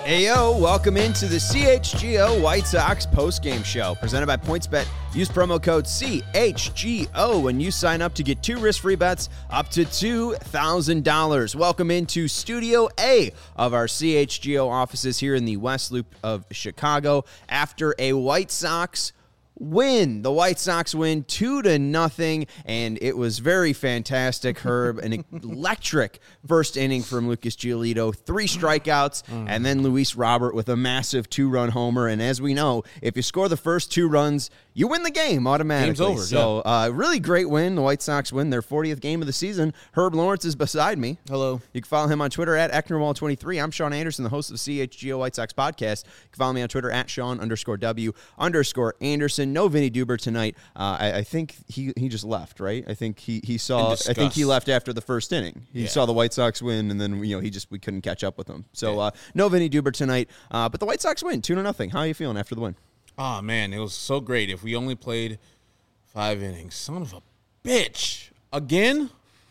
Heyo, welcome into the CHGO White Sox postgame show presented by PointsBet. Use promo code CHGO when you sign up to get 2 risk-free bets up to $2,000. Welcome into Studio A of our CHGO offices here in the West Loop of Chicago after a White Sox win. The White Sox win 2-0, and it was very fantastic, Herb. An electric first inning from Lucas Giolito, 3 strikeouts, and then Luis Robert with a massive 2-run homer. And as we know, if you score the first 2 runs, you win the game automatically. Game's over. So, really great win. The White Sox win their 40th game of the season. Herb Lawrence is beside me. Hello. You can follow him on Twitter at Ecknerwall23. I'm Sean Anderson, the host of the CHGO White Sox podcast. You can follow me on Twitter at Sean_W_Anderson. No Vinny Duber tonight. I think he just left, right? I think he saw. I think he left after the first inning. He saw the White Sox win, and then we couldn't catch up with him. So no Vinny Duber tonight. But the White Sox win 2-0. How are you feeling after the win? Oh man, it was so great. If we only played 5 innings, son of a bitch, again.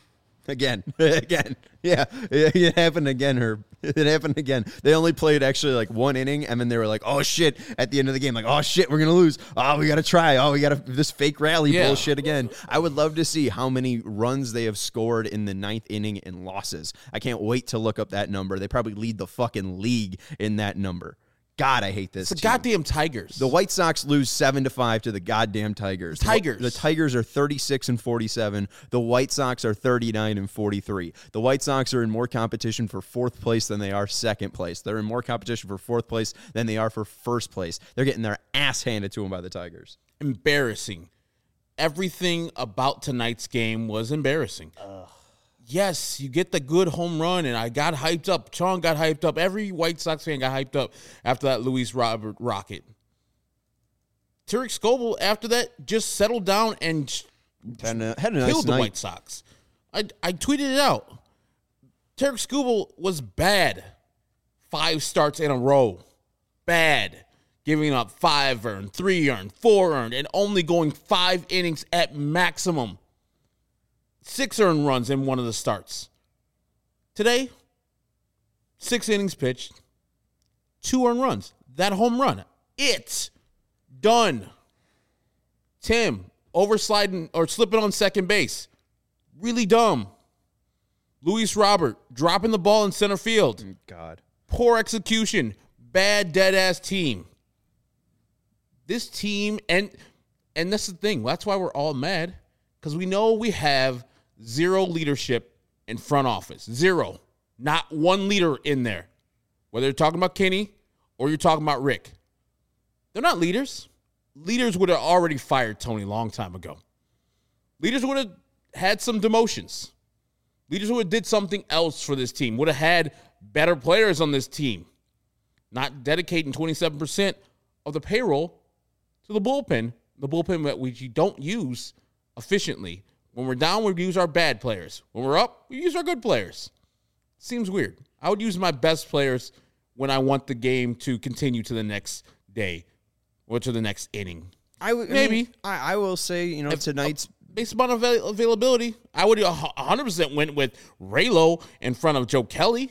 Yeah, it happened again, Herb. It happened again. They only played actually like 1 inning, and then they were like, oh, shit, at the end of the game. Like, oh, shit, we're going to lose. Oh, we got to try. Oh, we got to this fake rally bullshit again. I would love to see how many runs they have scored in the 9th inning in losses. I can't wait to look up that number. They probably lead the fucking league in that number. God, I hate this. It's the goddamn Tigers. The White Sox lose 7-5 to the goddamn Tigers. The Tigers are 36-47. The White Sox are 39-43. The White Sox are in more competition for 4th place than they are 2nd place. They're in more competition for 4th place than they are for 1st place. They're getting their ass handed to them by the Tigers. Embarrassing. Everything about tonight's game was embarrassing. Yes, you get the good home run, and I got hyped up. Sean got hyped up. Every White Sox fan got hyped up after that Luis Robert rocket. Tarik Skubal, after that, just settled down and had a nice killed the night. White Sox. I tweeted it out. Tarik Skubal was bad. 5 starts in a row. Bad. Giving up 5 earned, 3 earned, 4 earned, and only going 5 innings at maximum. 6 earned runs in one of the starts. Today, 6 innings pitched, 2 earned runs. That home run, it's done. Tim, oversliding or slipping on second base. Really dumb. Luis Robert, dropping the ball in center field. God. Poor execution. Bad, dead-ass team. This team, and that's the thing. That's why we're all mad. Because we know we have 0 leadership in front office. 0. Not 1 leader in there. Whether you're talking about Kenny or you're talking about Rick. They're not leaders. Leaders would have already fired Tony a long time ago. Leaders would have had some demotions. Leaders would have did something else for this team. Would have had better players on this team. Not dedicating 27% of the payroll to the bullpen. The bullpen that we don't use efficiently. When we're down, we use our bad players. When we're up, we use our good players. Seems weird. I would use my best players when I want the game to continue to the next day or to the next inning. I will say, tonight's... Based upon availability, I would 100% went with Raylo in front of Joe Kelly.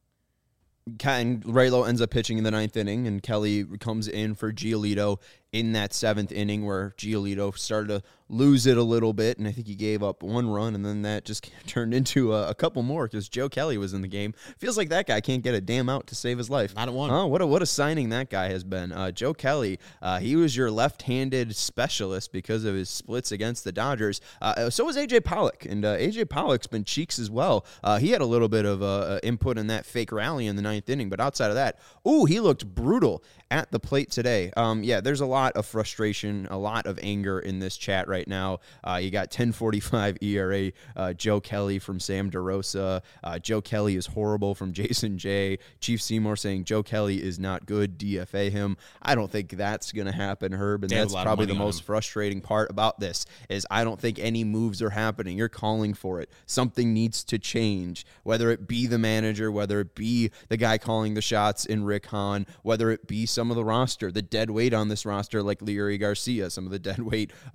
And Raylo ends up pitching in the 9th inning, and Kelly comes in for Giolito in that 7th inning where Giolito started to lose it a little bit, and I think he gave up 1 run, and then that just turned into a couple more because Joe Kelly was in the game. Feels like that guy can't get a damn out to save his life. Not at 1. Oh, what a signing that guy has been. Joe Kelly, he was your left-handed specialist because of his splits against the Dodgers. So was A.J. Pollock, and A.J. Pollock's been cheeks as well. He had a little bit of input in that fake rally in the 9th inning, but outside of that, he looked brutal at the plate today. There's a lot of frustration, a lot of anger in this chat right now. You got 10.45 ERA, Joe Kelly from Sam DeRosa. Joe Kelly is horrible from Jason J. Chief Seymour saying Joe Kelly is not good, DFA him. I don't think that's going to happen, Herb, and that's probably the most frustrating part about this is I don't think any moves are happening. You're calling for it. Something needs to change, whether it be the manager, whether it be the guy calling the shots in Rick Hahn, whether it be some of the roster, the dead weight on this roster like Leury Garcia, some of the dead weight like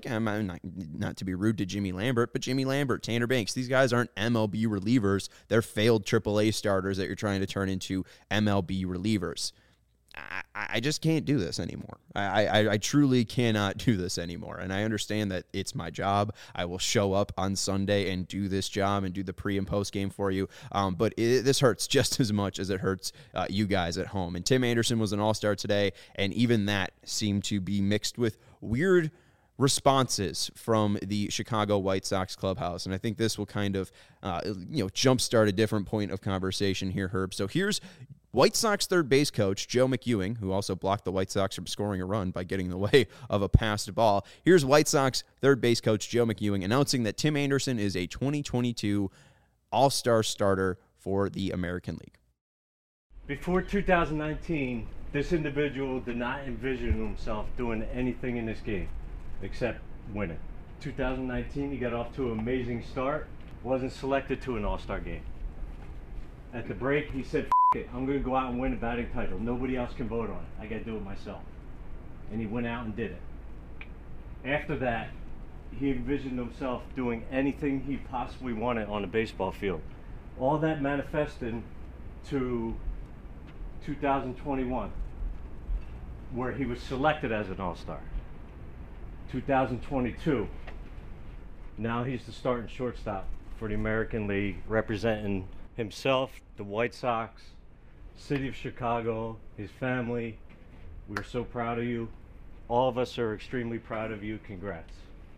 I'm not to be rude to Jimmy Lambert, but Jimmy Lambert, Tanner Banks, these guys aren't MLB relievers. They're failed AAA starters that you're trying to turn into MLB relievers. I just can't do this anymore. I truly cannot do this anymore. And I understand that it's my job. I will show up on Sunday and do this job and do the pre and post game for you. But this hurts just as much as it hurts you guys at home. And Tim Anderson was an all-star today, and even that seemed to be mixed with weird responses from the Chicago White Sox clubhouse. And I think this will kind of, jumpstart a different point of conversation here, Herb. So here's White Sox third base coach Joe McEwing, who also blocked the White Sox from scoring a run by getting in the way of a passed ball. Here's White Sox third base coach Joe McEwing announcing that Tim Anderson is a 2022 All-Star starter for the American League. Before 2019, this individual did not envision himself doing anything in this game except winning. 2019, he got off to an amazing start, wasn't selected to an All-Star game. At the break, he said, "F it, I'm going to go out and win a batting title. Nobody else can vote on it. I got to do it myself." And he went out and did it. After that, he envisioned himself doing anything he possibly wanted on the baseball field. All that manifested to 2021, where he was selected as an All-Star. 2022, now he's the starting shortstop for the American League, representing himself, the White Sox, city of Chicago, his family. We're so proud of you. All of us are extremely proud of you. Congrats.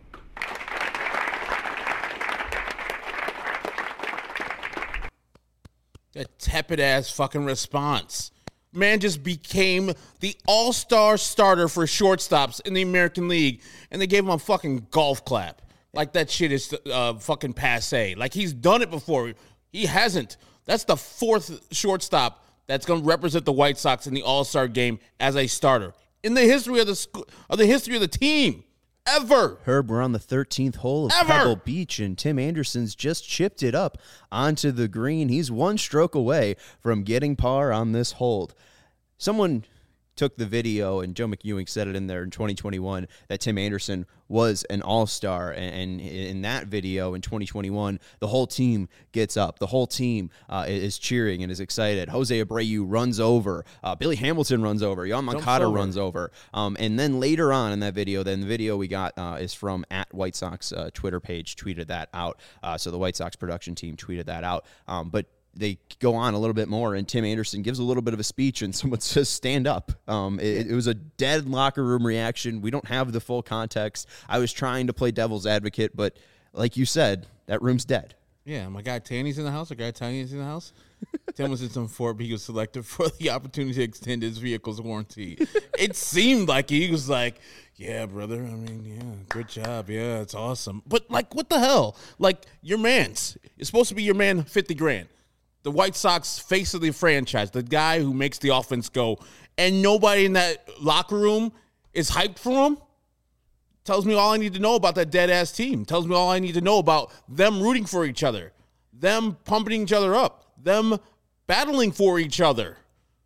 That tepid ass fucking response. Man just became the all-star starter for shortstops in the American League, and they gave him a fucking golf clap. Like that shit is fucking passe. Like he's done it before. He hasn't. That's the fourth shortstop that's going to represent the White Sox in the All-Star game as a starter in the history of the team. Ever. Herb, we're on the 13th hole of Pebble Beach, and Tim Anderson's just chipped it up onto the green. He's one stroke away from getting par on this hold. Someone took the video, and Joe McEwing said it in there in 2021, that Tim Anderson was an all-star. And in that video in 2021, the whole team gets up. The whole team is cheering and is excited. Jose Abreu runs over. Billy Hamilton runs over. Yoan Moncada runs over. And then later on in that video, the video we got is from at White Sox Twitter page, tweeted that out. So the White Sox production team tweeted that out. But they go on a little bit more, and Tim Anderson gives a little bit of a speech, and someone says, "Stand up." It was a dead locker room reaction. We don't have the full context. I was trying to play devil's advocate, but like you said, that room's dead. Yeah, my guy Tanny's in the house. Our guy Tanny's in the house. Tim was in some Ford, but he was selected for the opportunity to extend his vehicle's warranty. It seemed like he was like, "Yeah, brother. I mean, yeah, good job. Yeah, it's awesome." But like, what the hell? Like, your man's. It's supposed to be your man, $50,000. The White Sox face of the franchise, the guy who makes the offense go, and nobody in that locker room is hyped for him. Tells me all I need to know about that dead-ass team. Tells me all I need to know about them rooting for each other, them pumping each other up, them battling for each other.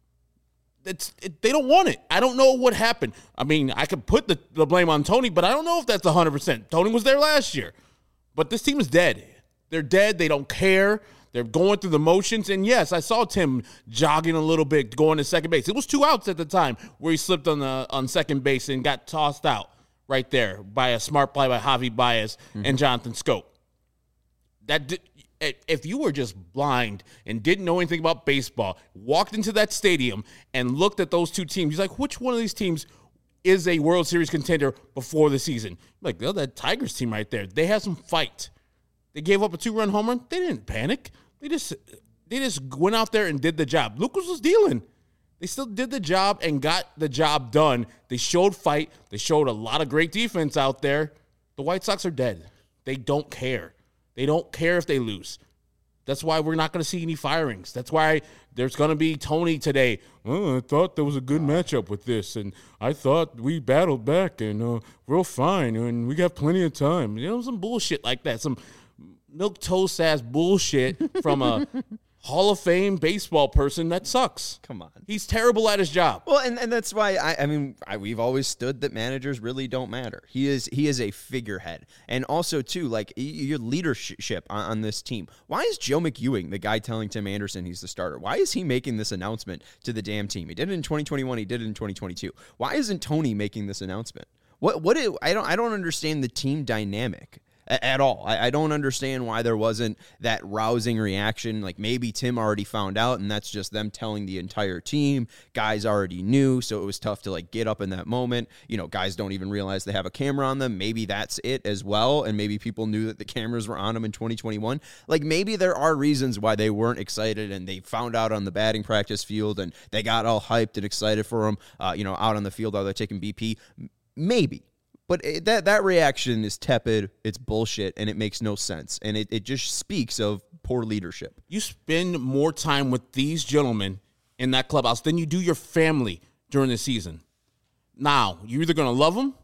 They don't want it. I don't know what happened. I mean, I could put the blame on Tony, but I don't know if that's 100%. Tony was there last year. But this team is dead. They're dead. They don't care. They're going through the motions. And, yes, I saw Tim jogging a little bit, going to second base. It was 2 outs at the time where he slipped on second base and got tossed out right there by a smart play by Javi Baez and Jonathan Schoop. If you were just blind and didn't know anything about baseball, walked into that stadium and looked at those two teams, you're like, which one of these teams is a World Series contender before the season? Like, oh, that Tigers team right there. They had some fight. They gave up a 2-run home run. They didn't panic. They just went out there and did the job. Lucas was dealing. They still did the job and got the job done. They showed fight. They showed a lot of great defense out there. The White Sox are dead. They don't care. They don't care if they lose. That's why we're not going to see any firings. That's why there's going to be Tony today. Oh, I thought there was a good matchup with this, and I thought we battled back, and we're fine, and we got plenty of time. You know, some bullshit like that. Some milquetoast ass bullshit from a Hall of Fame baseball person that sucks. Come on. He's terrible at his job. Well, and that's why we've always stood that managers really don't matter. He is a figurehead. And also, too, like your leadership on this team. Why is Joe McEwing the guy telling Tim Anderson he's the starter? Why is he making this announcement to the damn team? He did it in 2021. He did it in 2022. Why isn't Tony making this announcement? I don't understand the team dynamic at all. I don't understand why there wasn't that rousing reaction. Like maybe Tim already found out and that's just them telling the entire team. Guys already knew, so it was tough to like get up in that moment. You know, guys don't even realize they have a camera on them. Maybe that's it as well. And maybe people knew that the cameras were on them in 2021. Like maybe there are reasons why they weren't excited and they found out on the batting practice field and they got all hyped and excited for him, out on the field while they're taking BP. Maybe. But that reaction is tepid, it's bullshit, and it makes no sense. And it just speaks of poor leadership. You spend more time with these gentlemen in that clubhouse than you do your family during the season. Now, you're either going to love them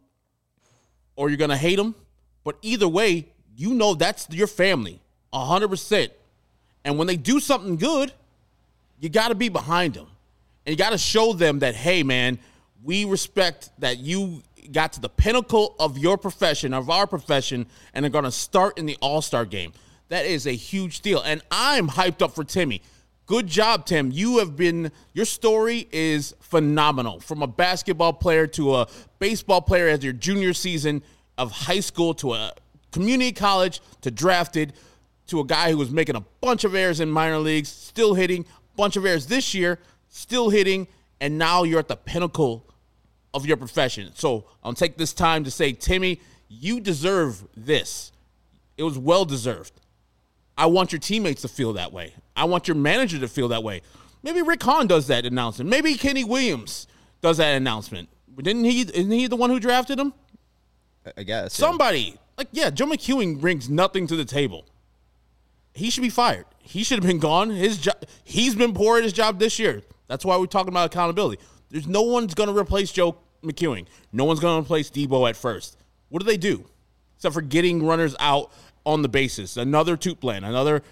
or you're going to hate them. But either way, you know that's your family, 100%. And when they do something good, you got to be behind them. And you got to show them that, hey, man, we respect that you got to the pinnacle of your profession, of our profession, and are going to start in the All-Star game. That is a huge deal. And I'm hyped up for Timmy. Good job, Tim. Your story is phenomenal. From a basketball player to a baseball player as your junior season of high school to a community college to drafted to a guy who was making a bunch of errors in minor leagues, still hitting, bunch of errors this year, still hitting, and now you're at the pinnacle of your profession. So I'll take this time to say, Timmy, you deserve this. It was well-deserved. I want your teammates to feel that way. I want your manager to feel that way. Maybe Rick Hahn does that announcement. Maybe Kenny Williams does that announcement. Isn't he the one who drafted him? I guess. Somebody. Joe McEwing brings nothing to the table. He should be fired. He should have been gone. He's been poor at his job this year. That's why we're talking about accountability. There's no one's going to replace Joe McEwing. No one's going to replace Debo at first. What do? Except for getting runners out on the bases. Another toot plan. Another,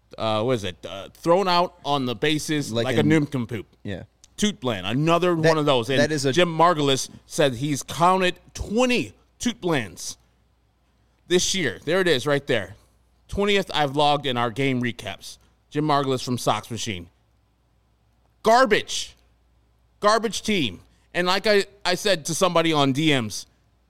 thrown out on the bases like a nincompoop. Yeah. Toot plan. Another one of those. And Jim Margulis said he's counted 20 toot plans this year. There it is right there. 20th I've logged in our game recaps. Jim Margulis from Sox Machine. Garbage team. And like I said to somebody on DMs,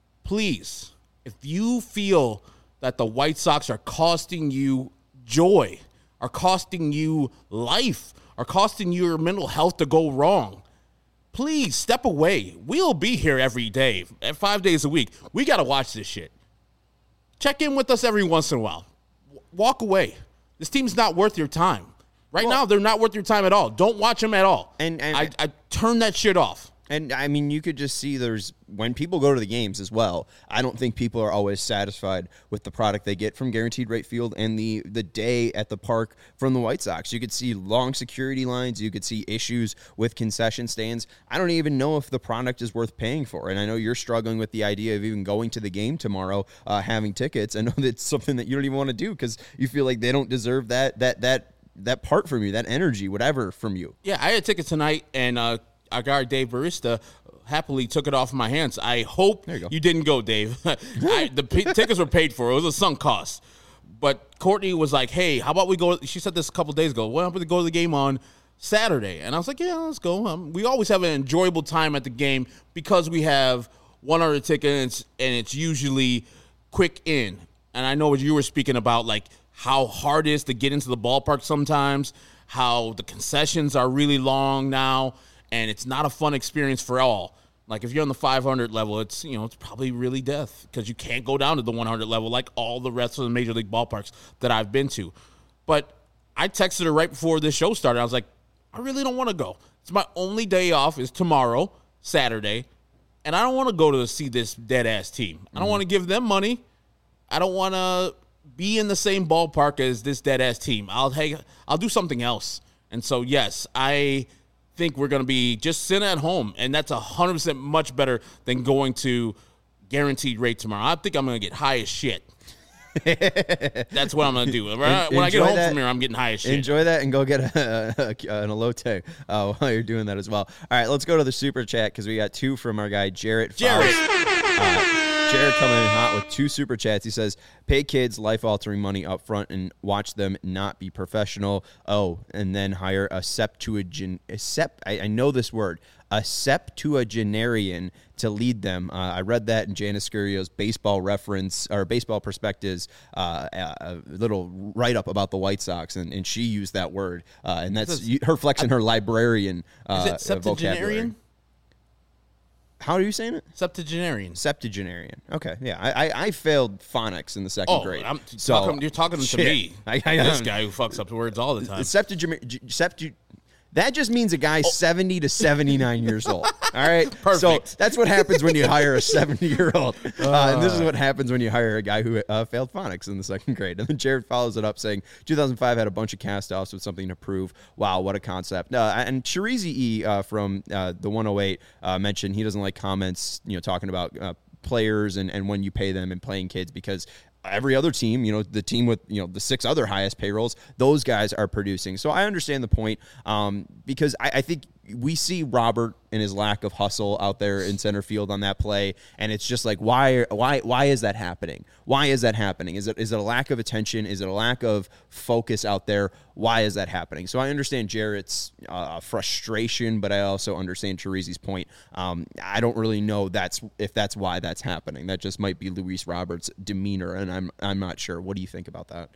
please, if you feel that the White Sox are costing you joy, are costing you life, are costing your mental health to go wrong, please step away. We'll be here every day, 5 days a week. We got to watch this shit. Check in with us every once in a while. Walk away. This team's not worth your time. Right now, they're not worth your time at all. Don't watch them at all. And I turn that shit off. And, I mean, you could just see when people go to the games as well, I don't think people are always satisfied with the product they get from Guaranteed Rate Field and the day at the park from the White Sox. You could see long security lines. You could see issues with concession stands. I don't even know if the product is worth paying for. And I know you're struggling with the idea of even going to the game tomorrow, having tickets. I know that's something that you don't even want to do because you feel like they don't deserve that part from you, that energy, whatever from you. Yeah, I had tickets tonight, and our guy Dave Barista happily took it off my hands. I hope you didn't go, Dave. The tickets were paid for. It was a sunk cost. But Courtney was like, hey, how about we go? She said this a couple days ago. Why don't we go to the game on Saturday? And I was like, yeah, let's go. We always have an enjoyable time at the game because we have 100 tickets, and it's usually quick in. And I know what you were speaking about, like how hard it is to get into the ballpark sometimes, how the concessions are really long now, and it's not a fun experience for all. Like if you're on the 500 level, it's probably really death because you can't go down to the 100 level like all the rest of the major league ballparks that I've been to. But I texted her right before this show started. I was like, I really don't want to go. It's my only day off is tomorrow, Saturday, and I don't want to go to see this dead-ass team. I don't want to give them money. I don't want to be in the same ballpark as this dead-ass team. I'll do something else. And so, yes, I think we're going to be just sitting at home, and that's 100% much better than going to Guaranteed Rate tomorrow. I think I'm going to get high as shit. That's what I'm going to do. When I get home from here, I'm getting high as shit. Enjoy that and go get an elote while you're doing that as well. All right, let's go to the super chat because we got 2 from our guy, Jarrett. Jared coming in hot with 2 super chats. He says, pay kids life-altering money up front and watch them not be professional. Oh, and then hire a septuagenarian to lead them. I read that in Janice Scurio's baseball reference or baseball perspectives, a little write-up about the White Sox, and she used that word. And that's her flexing her librarian vocabulary. How are you saying it? Septuagenarian. Okay, yeah. I failed phonics in the second grade. You're talking to me. This guy who fucks up words all the time. That just means a guy 70 to 79 years old. All right? Perfect. So that's what happens when you hire a 70-year-old. And this is what happens when you hire a guy who failed phonics in the second grade. And then Jared follows it up saying, 2005 had a bunch of cast-offs with something to prove. Wow, what a concept. And Sharizi E. From the 108 mentioned he doesn't like comments, talking about players and when you pay them and playing kids because every other team, the team with, the 6 other highest payrolls, those guys are producing. So I understand the point because I think we see Robert and his lack of hustle out there in center field on that play. And it's just like, why is that happening? Why is that happening? Is it a lack of attention? Is it a lack of focus out there? Why is that happening? So I understand Jarrett's frustration, but I also understand Chirizi's point. I don't really know if that's why that's happening. That just might be Luis Roberts' demeanor, and I'm not sure. What do you think about that?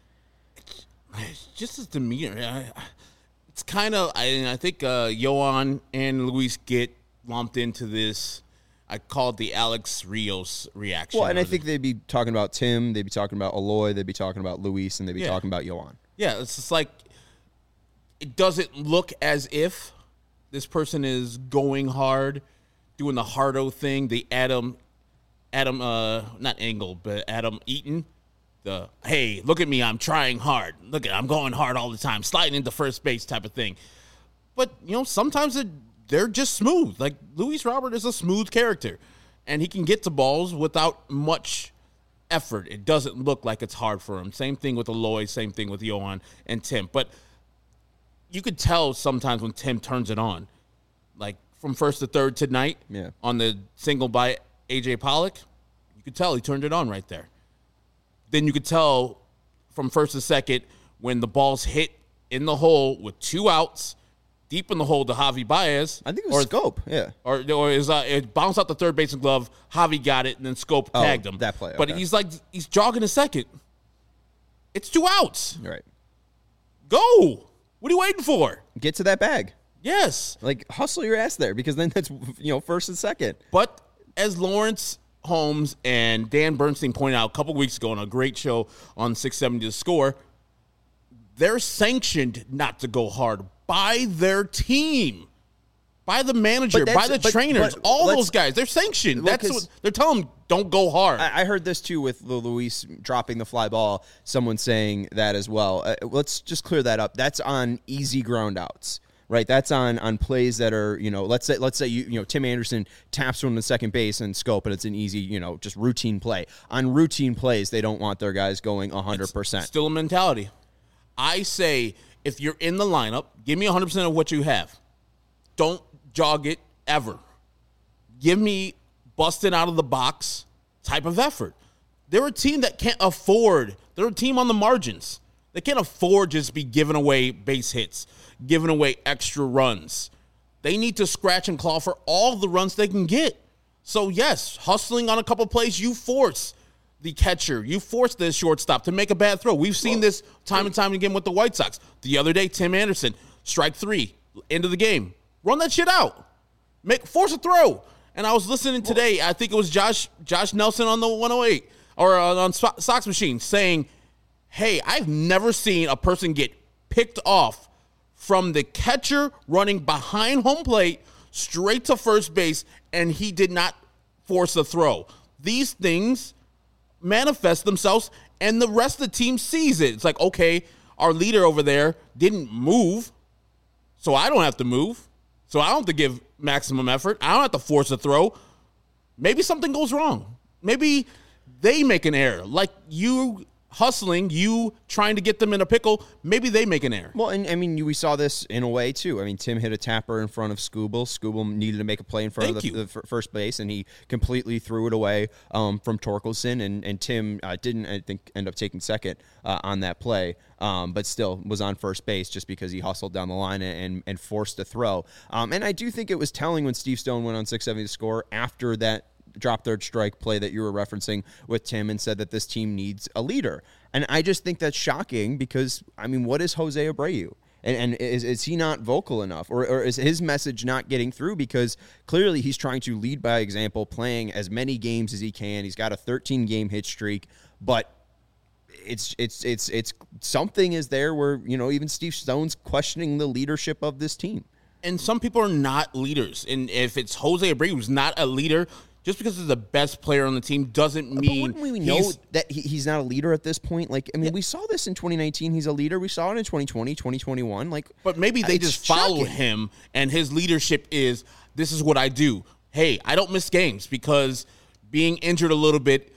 Just his demeanor. It's kind of, I think Yohan and Luis get lumped into this. I call it the Alex Rios reaction. Well, and I think they'd be talking about Tim, they'd be talking about Eloy, they'd be talking about Luis, and they'd be talking about Yohan. Yeah, it's just like, it doesn't look as if this person is going hard, doing the hardo thing, the Adam, not Engel, but Adam Eaton. Hey, look at me, I'm trying hard. I'm going hard all the time, sliding into first base type of thing. But, sometimes they're just smooth. Like, Luis Robert is a smooth character, and he can get to balls without much effort. It doesn't look like it's hard for him. Same thing with Eloy, same thing with Yohan and Tim. But you could tell sometimes when Tim turns it on. Like, from first to third tonight on the single by A.J. Pollock, you could tell he turned it on right there. Then you could tell from first to second when the ball's hit in the hole with 2 outs, deep in the hole to Javi Baez. I think it was Scope, yeah. Or it bounced out the third baseman glove. Javi got it, and then Scope tagged him. That play, okay. But he's jogging a second. It's 2 outs. Right. Go. What are you waiting for? Get to that bag. Yes. Like, hustle your ass there because then that's, first and second. But as Lawrence Holmes and Dan Bernstein pointed out a couple weeks ago on a great show on 670 The Score, they're sanctioned not to go hard by their team, by the manager, by the trainers, all those guys. They're sanctioned. That's what they're telling them, don't go hard. I heard this too with Luis dropping the fly ball, someone saying that as well. Let's just clear that up. That's on easy ground outs. Right, that's on plays that are, let's say you Tim Anderson taps one to second base and Scope, and it's an easy, just routine play. On routine plays, they don't want their guys going 100%. It's still a mentality. I say if you're in the lineup, give me 100% of what you have. Don't jog it ever. Give me busted out of the box type of effort. They're a team that can't afford. They're a team on the margins. They can't afford just be giving away base hits, giving away extra runs. They need to scratch and claw for all the runs they can get. So, yes, hustling on a couple plays, you force the catcher, you force the shortstop to make a bad throw. We've seen this time and time again with the White Sox. The other day, Tim Anderson, strike 3, end of the game. Run that shit out. Force a throw. And I was listening today, I think it was Josh Nelson on the 108 or on Sox Machine saying, hey, I've never seen a person get picked off from the catcher running behind home plate straight to first base, and he did not force a throw. These things manifest themselves, and the rest of the team sees it. It's like, okay, our leader over there didn't move, so I don't have to move. So I don't have to give maximum effort. I don't have to force a throw. Maybe something goes wrong. Maybe they make an error. Like you hustling, you trying to get them in a pickle, maybe they make an error. Well, and I mean, we saw this in a way too. I mean, Tim hit a tapper in front of Skubal. Skubal needed to make a play in front of the first base, and he completely threw it away from Torkelson. And Tim didn't, I think, end up taking second on that play, but still was on first base just because he hustled down the line and forced a throw. And I do think it was telling when Steve Stone went on 670 to score after that drop third strike play that you were referencing with Tim and said that this team needs a leader. And I just think that's shocking because, I mean, what is Jose Abreu? And is he not vocal enough? Or is his message not getting through? Because clearly he's trying to lead by example, playing as many games as he can. He's got a 13-game hit streak, but it's something is there where, you know, even Steve Stone's questioning the leadership of this team. And some people are not leaders. And if it's Jose Abreu who's not a leader, just because he's the best player on the team doesn't mean but wouldn't we know that he's not a leader at this point? Like, I mean, we saw this in 2019. He's a leader. We saw it in 2020, 2021. Like, but maybe they just follow him, and his leadership is, this is what I do. Hey, I don't miss games because being injured a little bit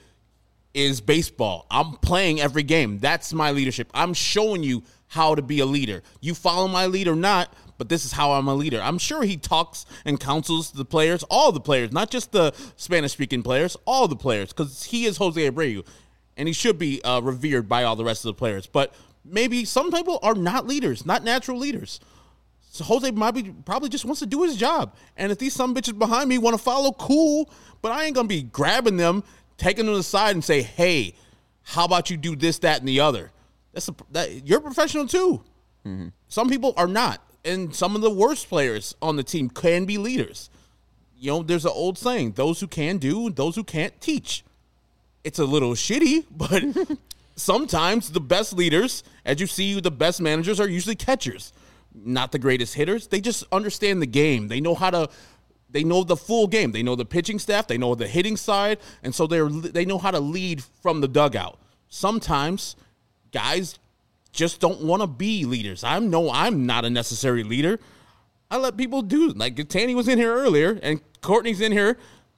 is baseball. I'm playing every game. That's my leadership. I'm showing you how to be a leader. You follow my lead or not, but this is how I'm a leader. I'm sure he talks and counsels the players, all the players, not just the Spanish-speaking players, all the players, because he is Jose Abreu, and he should be revered by all the rest of the players. But maybe some people are not leaders, not natural leaders. So Jose probably just wants to do his job. And if these some bitches behind me want to follow, cool, but I ain't going to be grabbing them, taking them aside and say, hey, how about you do this, that, and the other? You're a professional too. Mm-hmm. Some people are not. And some of the worst players on the team can be leaders. You know, there's an old saying, those who can do, those who can't teach. It's a little shitty, but sometimes the best leaders, as you see, the best managers are usually catchers. Not the greatest hitters. They just understand the game. They know they know the full game. They know the pitching staff. They know the hitting side. And so they know how to lead from the dugout. Sometimes guys just don't want to be leaders. I'm not a necessary leader. I let people do, like Tanny was in here earlier and Courtney's in here.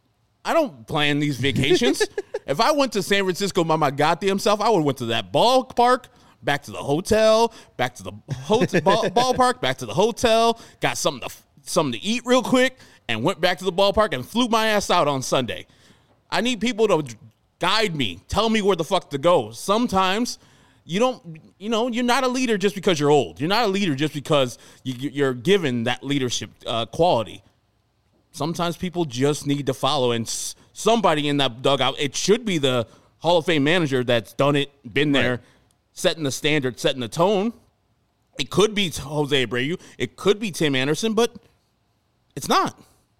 I don't plan these vacations. If I went to San Francisco by my goddamn self, I would have went to that ballpark, back to the hotel, back to the ballpark, back to the hotel, got something to eat real quick, and went back to the ballpark and flew my ass out on Sunday. I need people to guide me, tell me where the fuck to go. Sometimes you're not a leader just because you're old. You're not a leader just because you're given that leadership quality. Sometimes people just need to follow, and somebody in that dugout, it should be the Hall of Fame manager that's done it, been there, setting the standard, setting the tone. It could be Jose Abreu. It could be Tim Anderson, but it's not.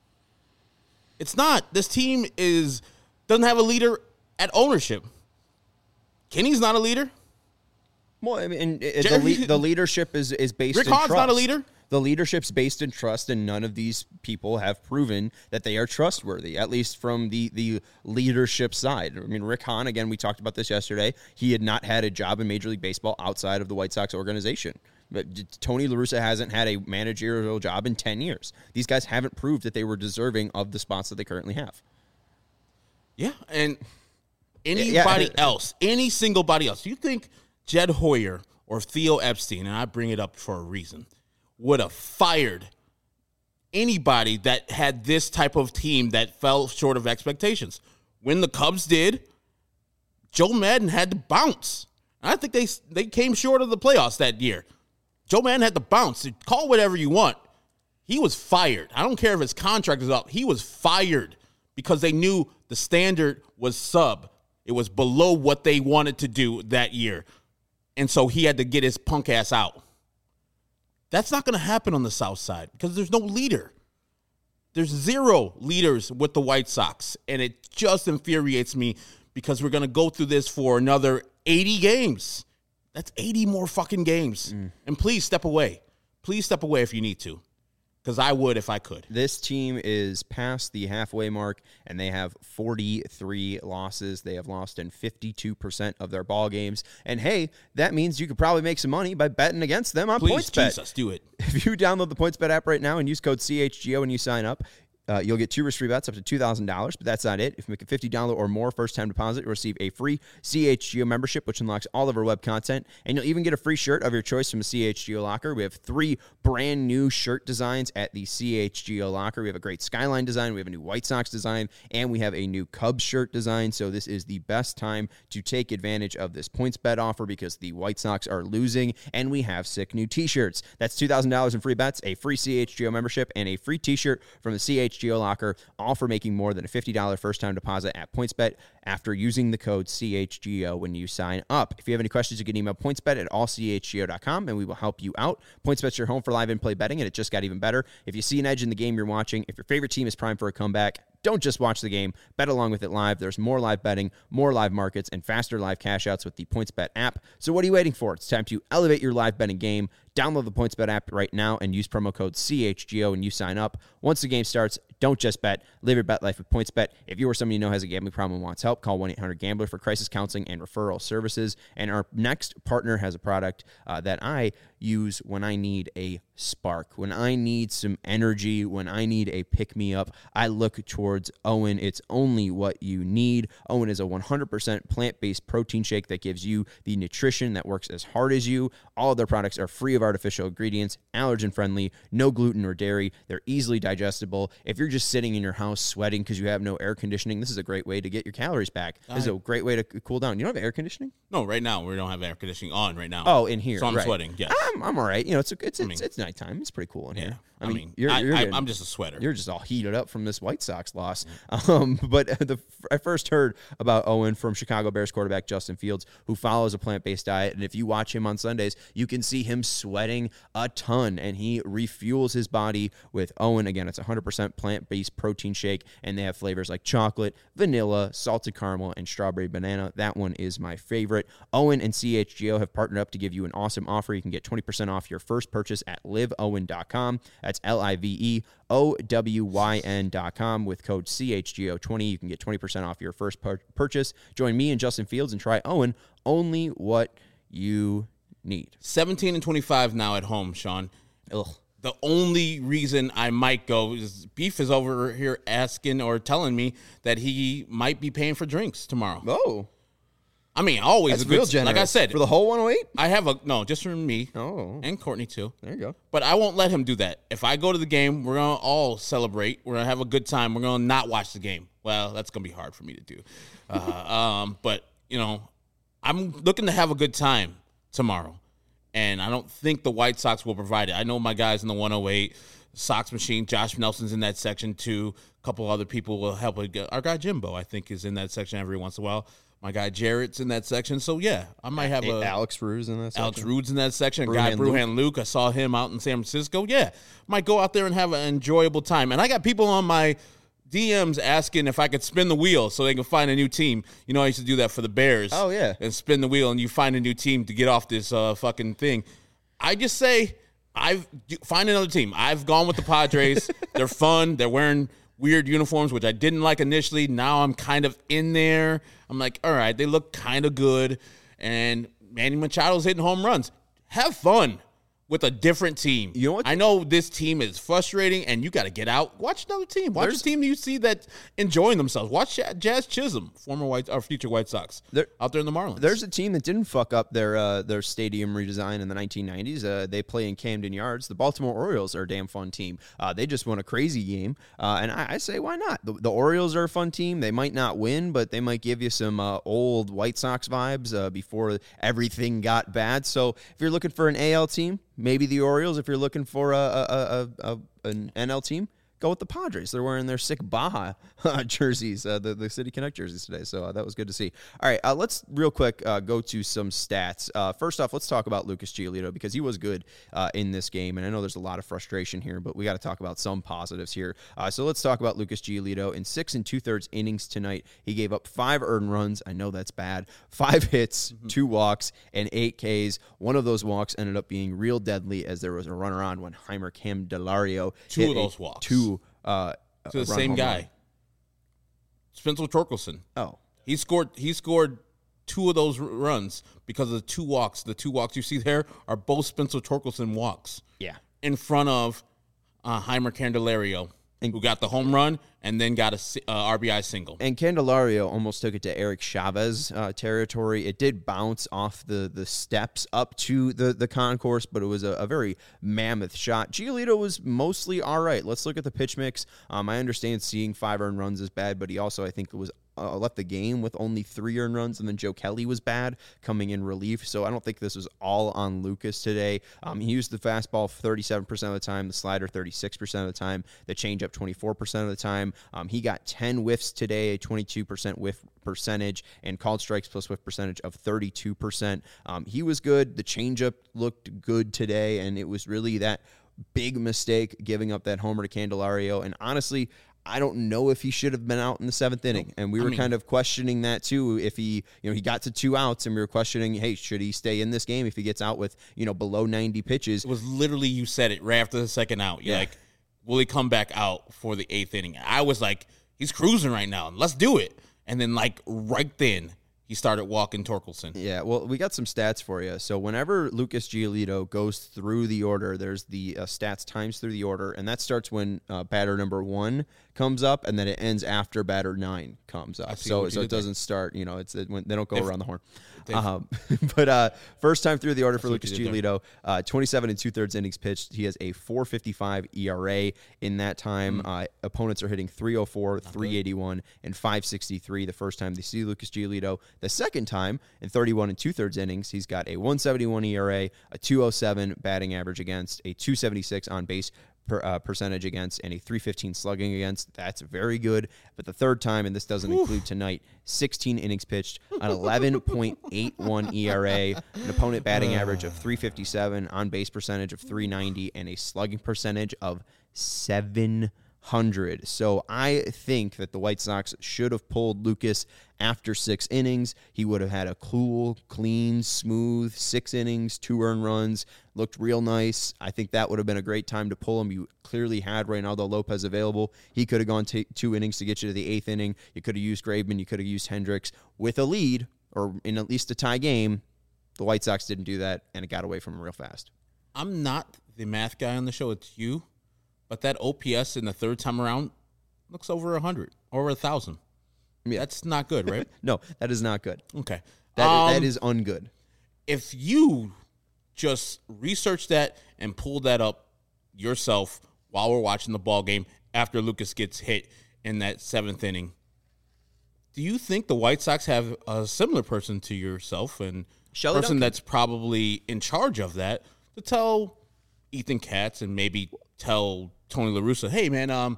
It's not. This team doesn't have a leader at ownership. Kenny's not a leader. Well, I mean, the leadership is based Rick in Hahn's trust. not a leader. The leadership's based in trust, and none of these people have proven that they are trustworthy, at least from the leadership side. I mean, Rick Hahn, again, we talked about this yesterday. He had not had a job in Major League Baseball outside of the White Sox organization. But Tony La Russa hasn't had a managerial job in 10 years. These guys haven't proved that they were deserving of the spots that they currently have. Yeah, and anybody else, any single body else, you think Jed Hoyer or Theo Epstein, and I bring it up for a reason, would have fired anybody that had this type of team that fell short of expectations? When the Cubs did, Joe Maddon had to bounce. I think they came short of the playoffs that year. Joe Maddon had to bounce. Call whatever you want. He was fired. I don't care if his contract is up. He was fired because they knew the standard was sub. It was below what they wanted to do that year. And so he had to get his punk ass out. That's not going to happen on the South Side because there's no leader. There's zero leaders with the White Sox, and it just infuriates me because we're going to go through this for another 80 games. That's 80 more fucking games. And please step away. Please step away if you need to, because I would if I could. This team is past the halfway mark, and they have 43 losses. They have lost in 52% of their ball games. And, hey, that means you could probably make some money by betting against them on PointsBet. Jesus, do it. If you download the PointsBet app right now and use code CHGO when you sign up, You'll get 2 risk-free bets up to $2,000, but that's not it. If you make a $50 or more first-time deposit, you'll receive a free CHGO membership, which unlocks all of our web content, and you'll even get a free shirt of your choice from the CHGO Locker. We have 3 brand new shirt designs at the CHGO Locker. We have a great Skyline design, we have a new White Sox design, and we have a new Cubs shirt design. So this is the best time to take advantage of this PointsBet offer because the White Sox are losing, and we have sick new t-shirts. That's $2,000 in free bets, a free CHGO membership, and a free t-shirt from the CHGO Locker, all for making more than a $50 first-time deposit at PointsBet after using the code CHGO when you sign up. If you have any questions, you can email pointsbet@allchgo.com, and we will help you out. PointsBet's your home for live in-play betting, and it just got even better. If you see an edge in the game you're watching, if your favorite team is primed for a comeback, don't just watch the game. Bet along with it live. There's more live betting, more live markets, and faster live cash outs with the PointsBet app. So what are you waiting for? It's time to elevate your live betting game. Download the PointsBet app right now and use promo code CHGO when you sign up. Once the game starts, don't just bet. Live your bet life with PointsBet. If you or someone you know has a gambling problem and wants help, call 1-800-GAMBLER for crisis counseling and referral services. And our next partner has a product that I use when I need a spark, when I need some energy, when I need a pick-me-up. I look towards Owen. It's only what you need. Owen is a 100% plant-based protein shake that gives you the nutrition that works as hard as you. All of their products are free of artificial ingredients, allergen-friendly, no gluten or dairy. They're easily digestible. If you're just sitting in your house sweating because you have no air conditioning, this is a great way to get your calories back. This is a great way to cool down. You don't have air conditioning? No, right now we don't have air conditioning on right now. Oh, in here. So I'm right. sweating. Yes. I'm all right. You know, it's nighttime. It's pretty cool in here. I'm just a sweater. You're just all heated up from this White Sox loss. But I first heard about Owen from Chicago Bears quarterback Justin Fields, who follows a plant-based diet. And if you watch him on Sundays, you can see him sweating a ton, and he refuels his body with Owen. Again, it's 100% plant-based protein shake, and they have flavors like chocolate, vanilla, salted caramel, and strawberry banana. That one is my favorite. Owen and CHGO have partnered up to give you an awesome offer. You can get 20% off your first purchase at liveowen.com. That's LIVEOWYN.com with code CHGO20. You can get 20% off your first purchase. Join me and Justin Fields and try Owen, only what you need. 17 and 25 now at home, Sean. Ugh. The only reason I might go is Beef is over here asking or telling me that he might be paying for drinks tomorrow. Oh. I mean, always That's a good, real generous. like I said, for the whole 108? I have just for me. Oh. And Courtney too. There you go. But I won't let him do that. If I go to the game, we're going to all celebrate. We're going to have a good time. We're going to not watch the game. Well, that's going to be hard for me to do. But, you know, I'm looking to have a good time tomorrow. And I don't think the White Sox will provide it. I know my guys in the 108, Sox Machine, Josh Nelson's in that section too. A couple other people will help. Our guy Jimbo, I think, is in that section every once in a while. My guy Jarrett's in that section. So, yeah, I might have Alex Rude's in that section. Alex Rude's in that section. Bruhan Luke. I saw him out in San Francisco. Yeah, might go out there and have an enjoyable time. And I got people on my DMs asking if I could spin the wheel so they can find a new team. You know, I used to do that for the Bears. Oh, yeah. And spin the wheel, and you find a new team to get off this fucking thing. I just say, find another team. I've gone with the Padres. They're fun. They're wearing weird uniforms, which I didn't like initially. Now I'm kind of in there. I'm like, all right, they look kind of good. And Manny Machado's hitting home runs. Have fun with a different team. You know what? I know this team is frustrating, and you got to get out. Watch another team. Watch a team you see that's enjoying themselves. Watch Jazz Chisholm, future White Sox, out there in the Marlins. There's a team that didn't fuck up their stadium redesign in the 1990s. They play in Camden Yards. The Baltimore Orioles are a damn fun team. They just won a crazy game, and I say, why not? The Orioles are a fun team. They might not win, but they might give you some old White Sox vibes before everything got bad. So if you're looking for an AL team, maybe the Orioles. If you're looking for an NL team, go with the Padres. They're wearing their sick Baja jerseys, the City Connect jerseys today. So that was good to see. All right, let's real quick go to some stats. First off, let's talk about Lucas Giolito because he was good in this game. And I know there's a lot of frustration here, but we got to talk about some positives here. So let's talk about Lucas Giolito. In 6 2/3 innings tonight, he gave up 5 earned runs. I know that's bad. 5 hits, 2 walks, and 8 Ks. One of those walks ended up being real deadly as there was a runner on when Heimer Candelario hit of those walks. To the same guy, run. Spencer Torkelson. Oh, he scored 2 of those runs because of the 2 walks. The 2 walks you see there are both Spencer Torkelson walks. Yeah, in front of Heimer Candelario. who got the home run and then got a RBI single. And Candelario almost took it to Eric Chavez territory. It did bounce off the steps up to the concourse, but it was a very mammoth shot. Giolito was mostly all right. Let's look at the pitch mix. I understand seeing 5 earned runs is bad, but he also, I think, was left the game with only 3 earned runs, and then Joe Kelly was bad coming in relief. So I don't think this was all on Lucas today. He used the fastball 37% of the time, the slider 36% of the time, the changeup 24% of the time. He got 10 whiffs today, a 22% whiff percentage, and called strikes plus whiff percentage of 32%. He was good. The changeup looked good today, and it was really that big mistake giving up that homer to Candelario. And honestly, I don't know if he should have been out in the 7th inning. And we were kind of questioning that too. If he got to 2 outs, and we were questioning, hey, should he stay in this game if he gets out with, below 90 pitches? It was literally, you said it right after the 2nd out. You're like, will he come back out for the 8th inning? I was like, he's cruising right now. Let's do it. And then right then, he started walking Torkelson. Yeah, well, we got some stats for you. So whenever Lucas Giolito goes through the order, there's the stats times through the order, and that starts when batter number 1 comes up, and then it ends after batter 9 comes up. So it doesn't start, it's when they don't go around the horn. But first time through the order for Lucas Giolito, 27 2/3 innings pitched. He has a 4.55 ERA in that time. Opponents are hitting 304, 381, and 563 the first time they see Lucas Giolito. The second time, in 31 2/3 innings, he's got a 171 ERA, a 207 batting average against, a 276 on base percentage against, and a 315 slugging against. That's very good. But the third time, and this doesn't include tonight, 16 innings pitched, an 11.81 ERA, an opponent batting average of 357, on base percentage of 390, and a slugging percentage of 700. So I think that the White Sox should have pulled Lucas after 6 innings. He would have had a cool, clean, smooth 6 innings, 2 earned runs, looked real nice. I think that would have been a great time to pull him. You clearly had Reynaldo Lopez available. He could have gone 2 innings to get you to the 8th inning. You could have used Graveman. You could have used Hendricks with a lead or in at least a tie game. The White Sox didn't do that, and it got away from him real fast. I'm not the math guy on the show. It's you. But that OPS in the third time around looks over 100, over 1,000. Yeah. That's not good, right? No, that is not good. Okay. That is ungood. If you just research that and pull that up yourself while we're watching the ball game after Lucas gets hit in that 7th inning, do you think the White Sox have a similar person to yourself and Shelly person Duncan, that's probably in charge of that, to tell Ethan Katz and maybe tell Tony La Russa, hey, man,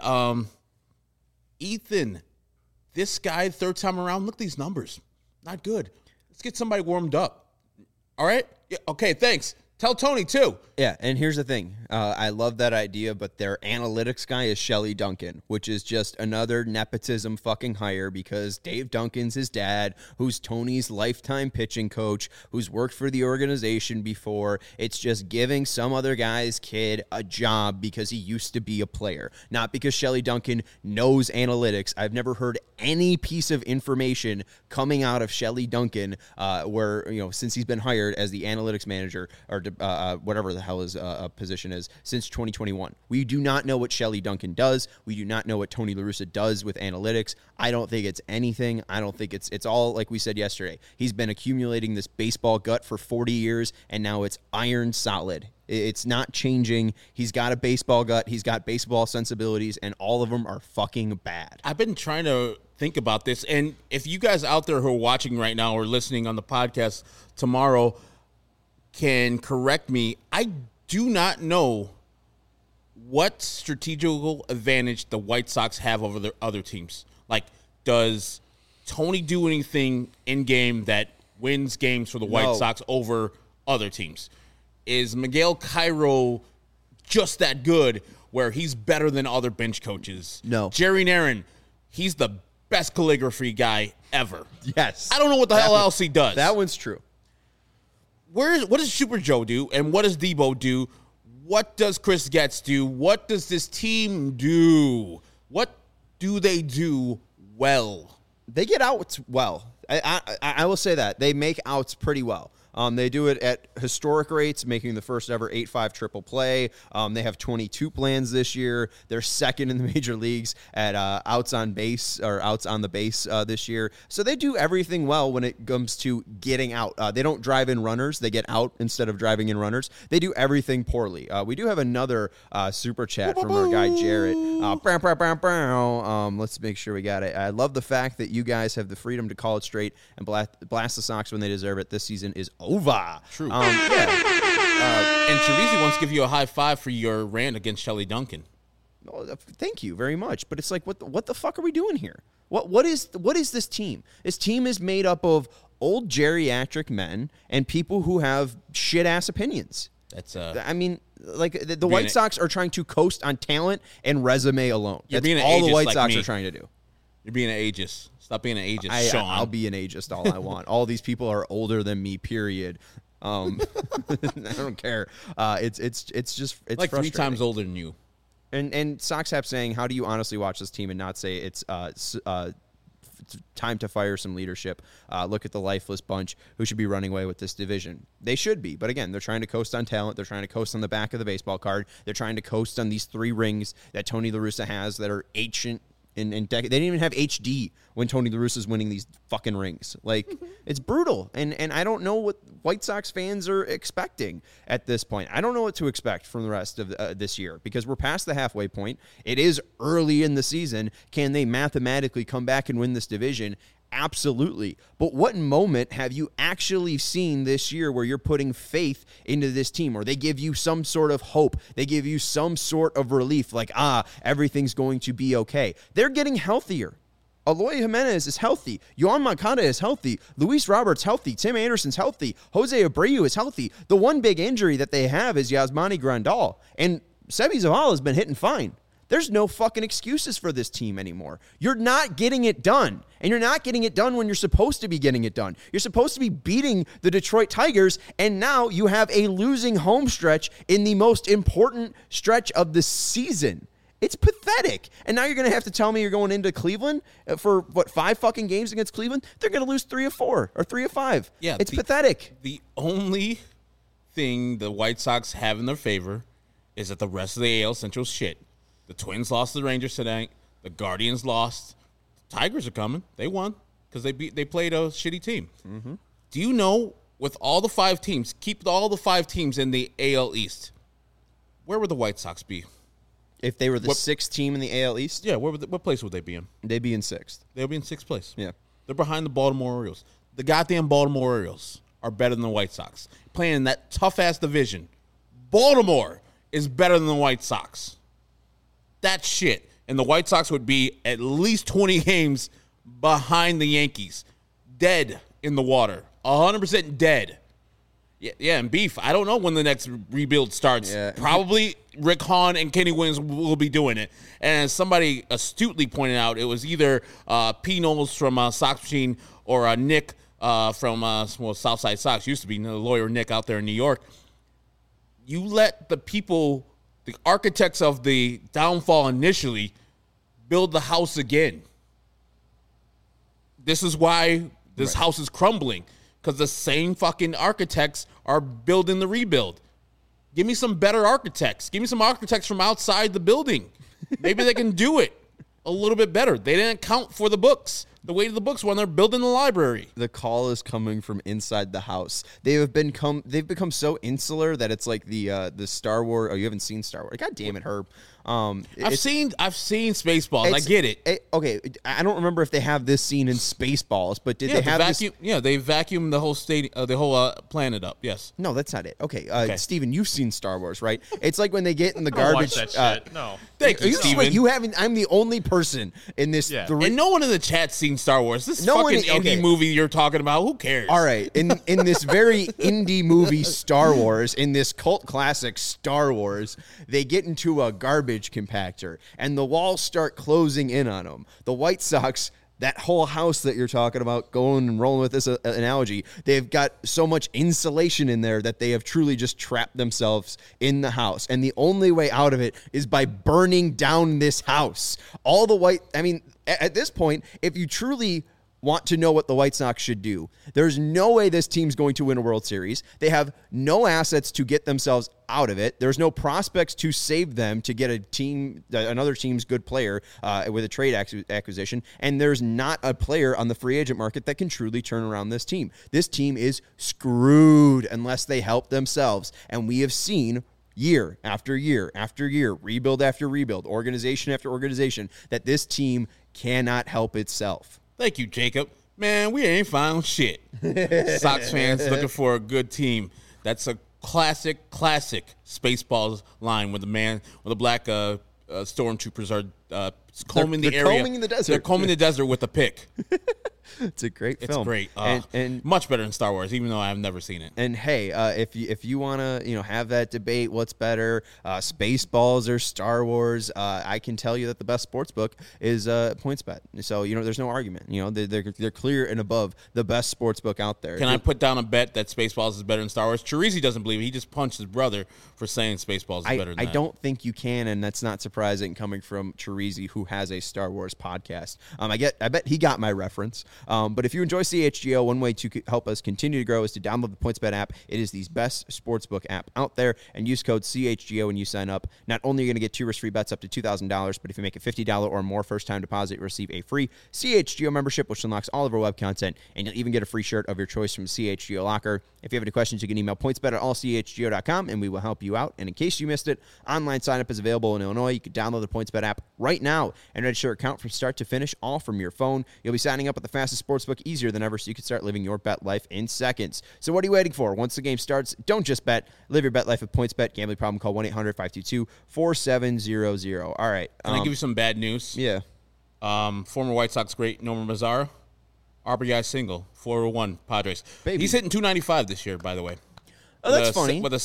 Ethan, this guy, third time around, look at these numbers. Not good. Let's get somebody warmed up. All right? Yeah, okay, thanks. Tell Tony, too. Yeah, and here's the thing. I love that idea, but their analytics guy is Shelly Duncan, which is just another nepotism fucking hire because Dave Duncan's his dad, who's Tony's lifetime pitching coach, who's worked for the organization before. It's just giving some other guy's kid a job because he used to be a player, not because Shelly Duncan knows analytics. I've never heard any piece of information coming out of Shelly Duncan where, since he's been hired as the analytics manager or whatever the hell his position is since 2021. We do not know what Shelly Duncan does. We do not know what Tony La Russa does with analytics. I don't think it's anything. I don't think it's all like we said yesterday. He's been accumulating this baseball gut for 40 years, and now it's iron solid. It's not changing. He's got a baseball gut. He's got baseball sensibilities, and all of them are fucking bad. I've been trying to think about this, and if you guys out there who are watching right now or listening on the podcast tomorrow can correct me, I do not know what strategical advantage the White Sox have over their other teams. Like, does Tony do anything in game that wins games for the White Sox over other teams? Is Miguel Cairo just that good where he's better than other bench coaches? No. Jerry Narron, he's the best calligraphy guy ever. Yes. I don't know what the hell else he does. That one's true. What does Super Joe do, and what does Debo do? What does Chris Getz do? What does this team do? What do they do well? They get outs well. I will say that. They make outs pretty well. They do it at historic rates, making the first ever 8-5 triple play. They have 22 plans this year. They're second in the major leagues at outs on base or outs on the base this year. So they do everything well when it comes to getting out. They don't drive in runners. They get out instead of driving in runners. They do everything poorly. We do have another super chat from our guy Jarrett. Let's make sure we got it. I love the fact that you guys have the freedom to call it straight and blast the Sox when they deserve it. This season is over. True. Yeah. And Teresi wants to give you a high five for your rant against Shelley Duncan. Oh, thank you very much. But it's like, what the fuck are we doing here? What is this team? This team is made up of old geriatric men and people who have shit ass opinions. That's I mean, like the White Sox are trying to coast on talent and resume alone. You're That's being an all the ageist White like me. Sox are trying to do. You're being an ageist. Stop being an ageist, Sean. I'll be an ageist all I want. All these people are older than me. Period. I don't care. It's just like 3 times older than you. And Sox Hap saying, how do you honestly watch this team and not say it's time to fire some leadership? Look at the lifeless bunch who should be running away with this division. They should be, but again, they're trying to coast on talent. They're trying to coast on the back of the baseball card. They're trying to coast on these 3 rings that Tony La Russa has that are ancient. They didn't even have HD when Tony La Russa's winning these fucking rings. Like, it's brutal. And I don't know what White Sox fans are expecting at this point. I don't know what to expect from the rest of this year because we're past the halfway point. It is early in the season. Can they mathematically come back and win this division? Absolutely. But what moment have you actually seen this year where you're putting faith into this team, or they give you some sort of hope? They give you some sort of relief, like, everything's going to be okay. They're getting healthier. Eloy Jimenez is healthy. Yohan Moncada is healthy. Luis Roberts healthy. Tim Anderson's healthy. Jose Abreu is healthy. The one big injury that they have is Yasmani Grandal. And Seby Zavala has been hitting fine. There's no fucking excuses for this team anymore. You're not getting it done. And you're not getting it done when you're supposed to be getting it done. You're supposed to be beating the Detroit Tigers, and now you have a losing home stretch in the most important stretch of the season. It's pathetic. And now you're going to have to tell me you're going into Cleveland for, 5 fucking games against Cleveland? They're going to lose 3 of 4 or 3 of 5. Yeah, it's pathetic. The only thing the White Sox have in their favor is that the rest of the AL Central's shit. The Twins lost to the Rangers tonight. The Guardians lost. The Tigers are coming. They won because they played a shitty team. Mm-hmm. Do you know, with all the 5 teams, keep all the 5 teams in the AL East, where would the White Sox be? If they were the 6th team in the AL East? Yeah, what place would they be in? They'd be in 6th. They'll be in 6th place. Yeah. They're behind the Baltimore Orioles. The goddamn Baltimore Orioles are better than the White Sox. Playing in that tough-ass division. Baltimore is better than the White Sox. That's shit. And the White Sox would be at least 20 games behind the Yankees. Dead in the water. 100% dead. Yeah, and Beef, I don't know when the next rebuild starts. Yeah. Probably Rick Hahn and Kenny Williams will be doing it. And as somebody astutely pointed out, it was either P. Knowles from Sox Machine or Nick from Southside Sox. Used to be the lawyer Nick out there in New York. You let the people, the architects of the downfall initially, build the house again. This is why this house is crumbling. Because the same fucking architects are building the rebuild. Give me some better architects. Give me some architects from outside the building. Maybe they can do it a little bit better. They didn't account for the books, the weight of the books when they're building the library. The call is coming from inside the house. They've become so insular that it's like the Star Wars. Oh, you haven't seen Star Wars? God damn it, Herb. I've seen Spaceballs. I get it. Okay, I don't remember if they have this scene in Spaceballs, but did they have vacuum? Yeah, they vacuumed the whole the whole planet up. Yes. No, that's not it. Okay, Steven, you've seen Star Wars, right? It's like when they get in the garbage. Watch that shit. No. Thank you, Steven. You haven't. I'm the only person in this. Yeah. And no one in the chat's seen Star Wars. This fucking indie movie you're talking about. Who cares? All right, in this very indie movie Star Wars, in this cult classic Star Wars, they get into a garbage compactor and the walls start closing in on them. The White Sox, that whole house that you're talking about, going and rolling with this analogy, they've got so much insulation in there that they have truly just trapped themselves in the house. And the only way out of it is by burning down this house. At this point, if you truly want to know what the White Sox should do. There's no way this team's going to win a World Series. They have no assets to get themselves out of it. There's no prospects to save them to get another team's good player with a trade acquisition. And there's not a player on the free agent market that can truly turn around this team. This team is screwed unless they help themselves. And we have seen year after year after year, rebuild after rebuild, organization after organization, that this team cannot help itself. Thank you, Jacob. Man, we ain't found shit. Sox fans looking for a good team. That's a classic Spaceballs line where the black stormtroopers are combing the area. Combing the desert. They're combing the desert with a pick. It's a great film. It's great. And much better than Star Wars, even though I've never seen it. And hey, if you want to have that debate, what's better, Spaceballs or Star Wars? I can tell you that the best sports book is PointsBet. So there's no argument. They're clear and above the best sports book out there. Can I put down a bet that Spaceballs is better than Star Wars? Chirizi doesn't believe it. He just punched his brother for saying Spaceballs is better than that. I don't think you can, and that's not surprising coming from Chirizi, who has a Star Wars podcast. I bet he got my reference. But if you enjoy CHGO, one way to help us continue to grow is to download the PointsBet app. It is the best sportsbook app out there, and use code CHGO when you sign up. Not only are you going to get 2 risk-free bets up to $2,000, but if you make a $50 or more first-time deposit, you receive a free CHGO membership, which unlocks all of our web content, and you'll even get a free shirt of your choice from CHGO Locker. If you have any questions, you can email pointsbet@allchgo.com, and we will help you out. And in case you missed it, online sign-up is available in Illinois. You can download the PointsBet app right now and register your account from start to finish, all from your phone. You'll be signing up with the fastest sportsbook easier than ever, so you can start living your bet life in seconds. So what are you waiting for? Once the game starts, don't just bet. Live your bet life with PointsBet. Gambling problem, call 1-800-522-4700. All right. Can I give you some bad news? Yeah. Former White Sox great Nomar Mazara, RBI single, 401 Padres. Baby. He's hitting 295 this year, by the way. Oh, that's funny. With a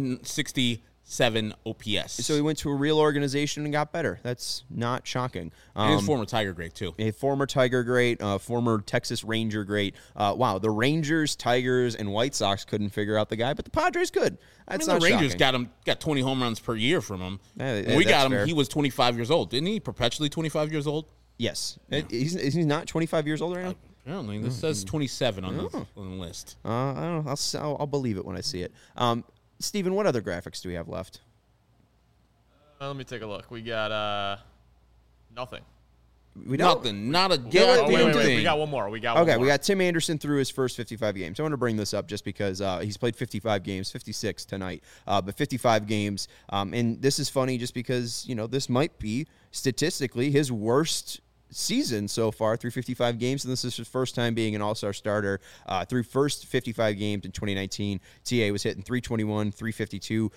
767 OPS. So he went to a real organization and got better. That's not shocking. And he's former Tiger great, too. A former Tiger great, former Texas Ranger great. Wow, the Rangers, Tigers, and White Sox couldn't figure out the guy, but the Padres could. That's the Rangers shocking. got 20 home runs per year from him. Yeah, we got him. fair. He was 25 years old. Didn't he? Perpetually 25 years old? Yes. He's not 25 years old right now? Apparently. This says 27 on the list. I don't know. I'll believe it when I see it. Steven, what other graphics do we have left? Let me take a look. We got nothing. We don't. Nothing. Not a Yeah, goddamn wait. thing. We got one more. We got Okay, we got Tim Anderson through his first 55 games. I want to bring this up just because he's played 55 games, 56 tonight, but 55 games. And this is funny just because, this might be statistically his worst season so far through 55 games, and this is his first time being an all-star starter. Through first 55 games in 2019, TA was hitting 321, 352,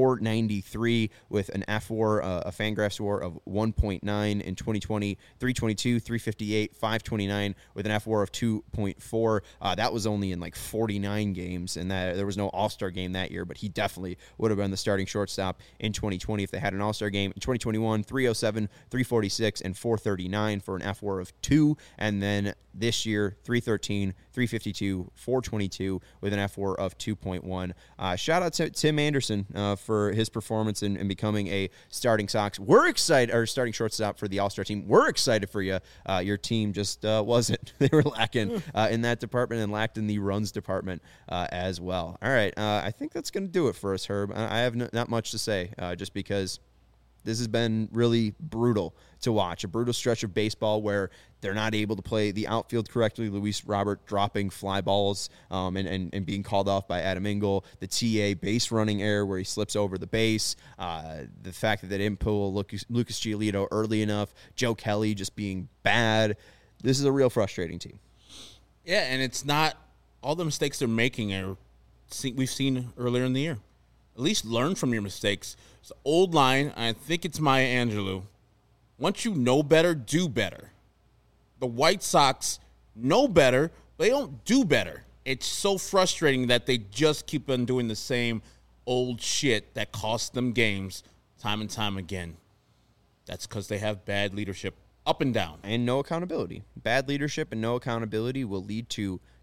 493 with an FWAR, a Fangraphs WAR of 1.9. In 2020, 322, 358, 529 with an FWAR of 2.4. That was only in like 49 games, and that there was no all-star game that year, but he definitely would have been the starting shortstop in 2020 if they had an all-star game. In 2021, 307, 346, and 439 for an FWAR of 2, and then this year 313, 352, 422 with an FWAR of 2.1. Shout out to Tim Anderson for his performance in becoming a starting Sox. We're excited, or starting shortstop for the All-Star team. We're excited for you. Your team just wasn't. They were lacking in that department and lacked in the runs department as well. All right, I think that's going to do it for us, Herb. I have not much to say, just because this has been really brutal to watch. A brutal stretch of baseball where they're not able to play the outfield correctly. Luis Robert dropping fly balls and being called off by Adam Engel. The TA base running error where he slips over the base. The fact that they didn't pull Lucas Giolito early enough. Joe Kelly just being bad. This is a real frustrating team. Yeah, and it's not all the mistakes they're making are we've seen earlier in the year. At least learn from your mistakes. It's an old line. I think it's Maya Angelou. Once you know better, do better. The White Sox know better, but they don't do better. It's so frustrating that they just keep on doing the same old shit that costs them games time and time again. That's because they have bad leadership up and down. And no accountability. Bad leadership and no accountability will lead to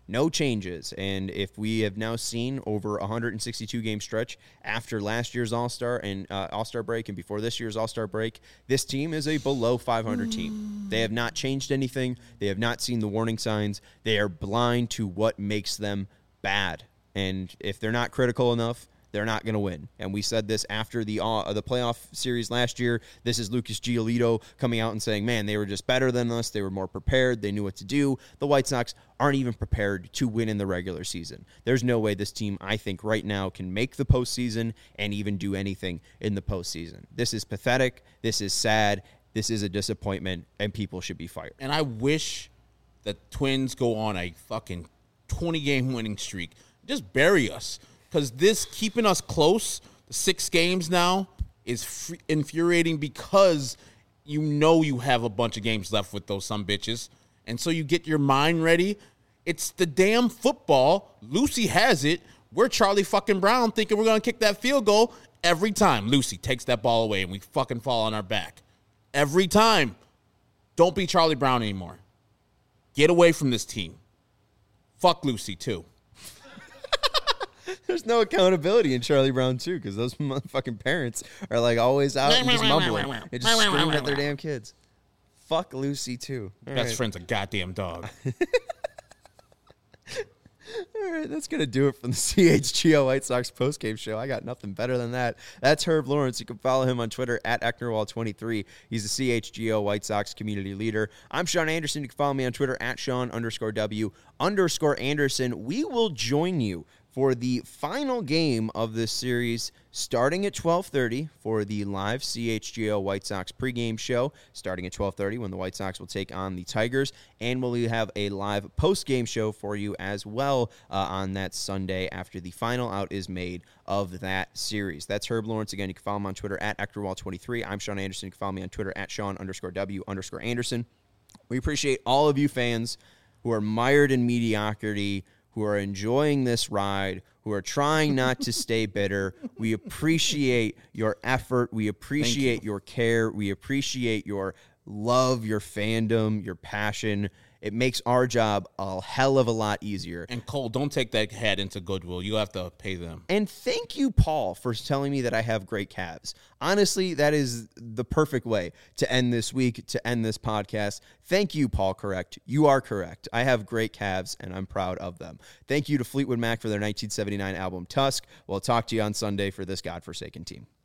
No changes. And if we have now seen over 162 game stretch after last year's All-Star and All-Star break and before this year's All-Star break, this team is a below 500 team. They have not changed anything. They have not seen the warning signs. They are blind to what makes them bad. And if they're not critical enough, they're not going to win. And we said this after the playoff series last year. This is Lucas Giolito coming out and saying, man, they were just better than us. They were more prepared. They knew what to do. The White Sox aren't even prepared to win in the regular season. There's no way this team, I think, right now can make the postseason and even do anything in the postseason. This is pathetic. This is sad. This is a disappointment, and people should be fired. And I wish the Twins go on a fucking 20-game winning streak. Just bury us. Because this keeping us close, the 6 games now, is infuriating because you know you have a bunch of games left with those sumbitches. And so you get your mind ready. It's the damn football. Lucy has it. We're Charlie fucking Brown thinking we're going to kick that field goal every time. Lucy takes that ball away and we fucking fall on our back. Every time. Don't be Charlie Brown anymore. Get away from this team. Fuck Lucy, too. There's no accountability in Charlie Brown, too, because those motherfucking parents are, like, always out and just mumbling and just screaming at their damn kids. Fuck Lucy, too. Best friend's a goddamn dog. All right, that's going to do it from the CHGO White Sox postgame show. I got nothing better than that. That's Herb Lawrence. You can follow him on Twitter at Ecknerwall23. He's the CHGO White Sox community leader. I'm Sean Anderson. You can follow me on Twitter at Sean_W_Anderson. We will join you for the final game of this series starting at 12:30 for the live CHGO White Sox pregame show, starting at 12:30 when the White Sox will take on the Tigers, and we'll have a live postgame show for you as well on that Sunday after the final out is made of that series. That's Herb Lawrence. Again, you can follow him on Twitter at Ectorwall23. I'm Sean Anderson. You can follow me on Twitter at Sean_W_Anderson. We appreciate all of you fans who are mired in mediocrity, who are enjoying this ride, who are trying not to stay bitter. We appreciate your effort. We appreciate your care. We appreciate your love, your fandom, your passion. It makes our job a hell of a lot easier. And Cole, don't take that hat into Goodwill. You have to pay them. And thank you, Paul, for telling me that I have great calves. Honestly, that is the perfect way to end this week, to end this podcast. Thank you, Paul. Correct. You are correct. I have great calves, and I'm proud of them. Thank you to Fleetwood Mac for their 1979 album, Tusk. We'll talk to you on Sunday for this godforsaken team.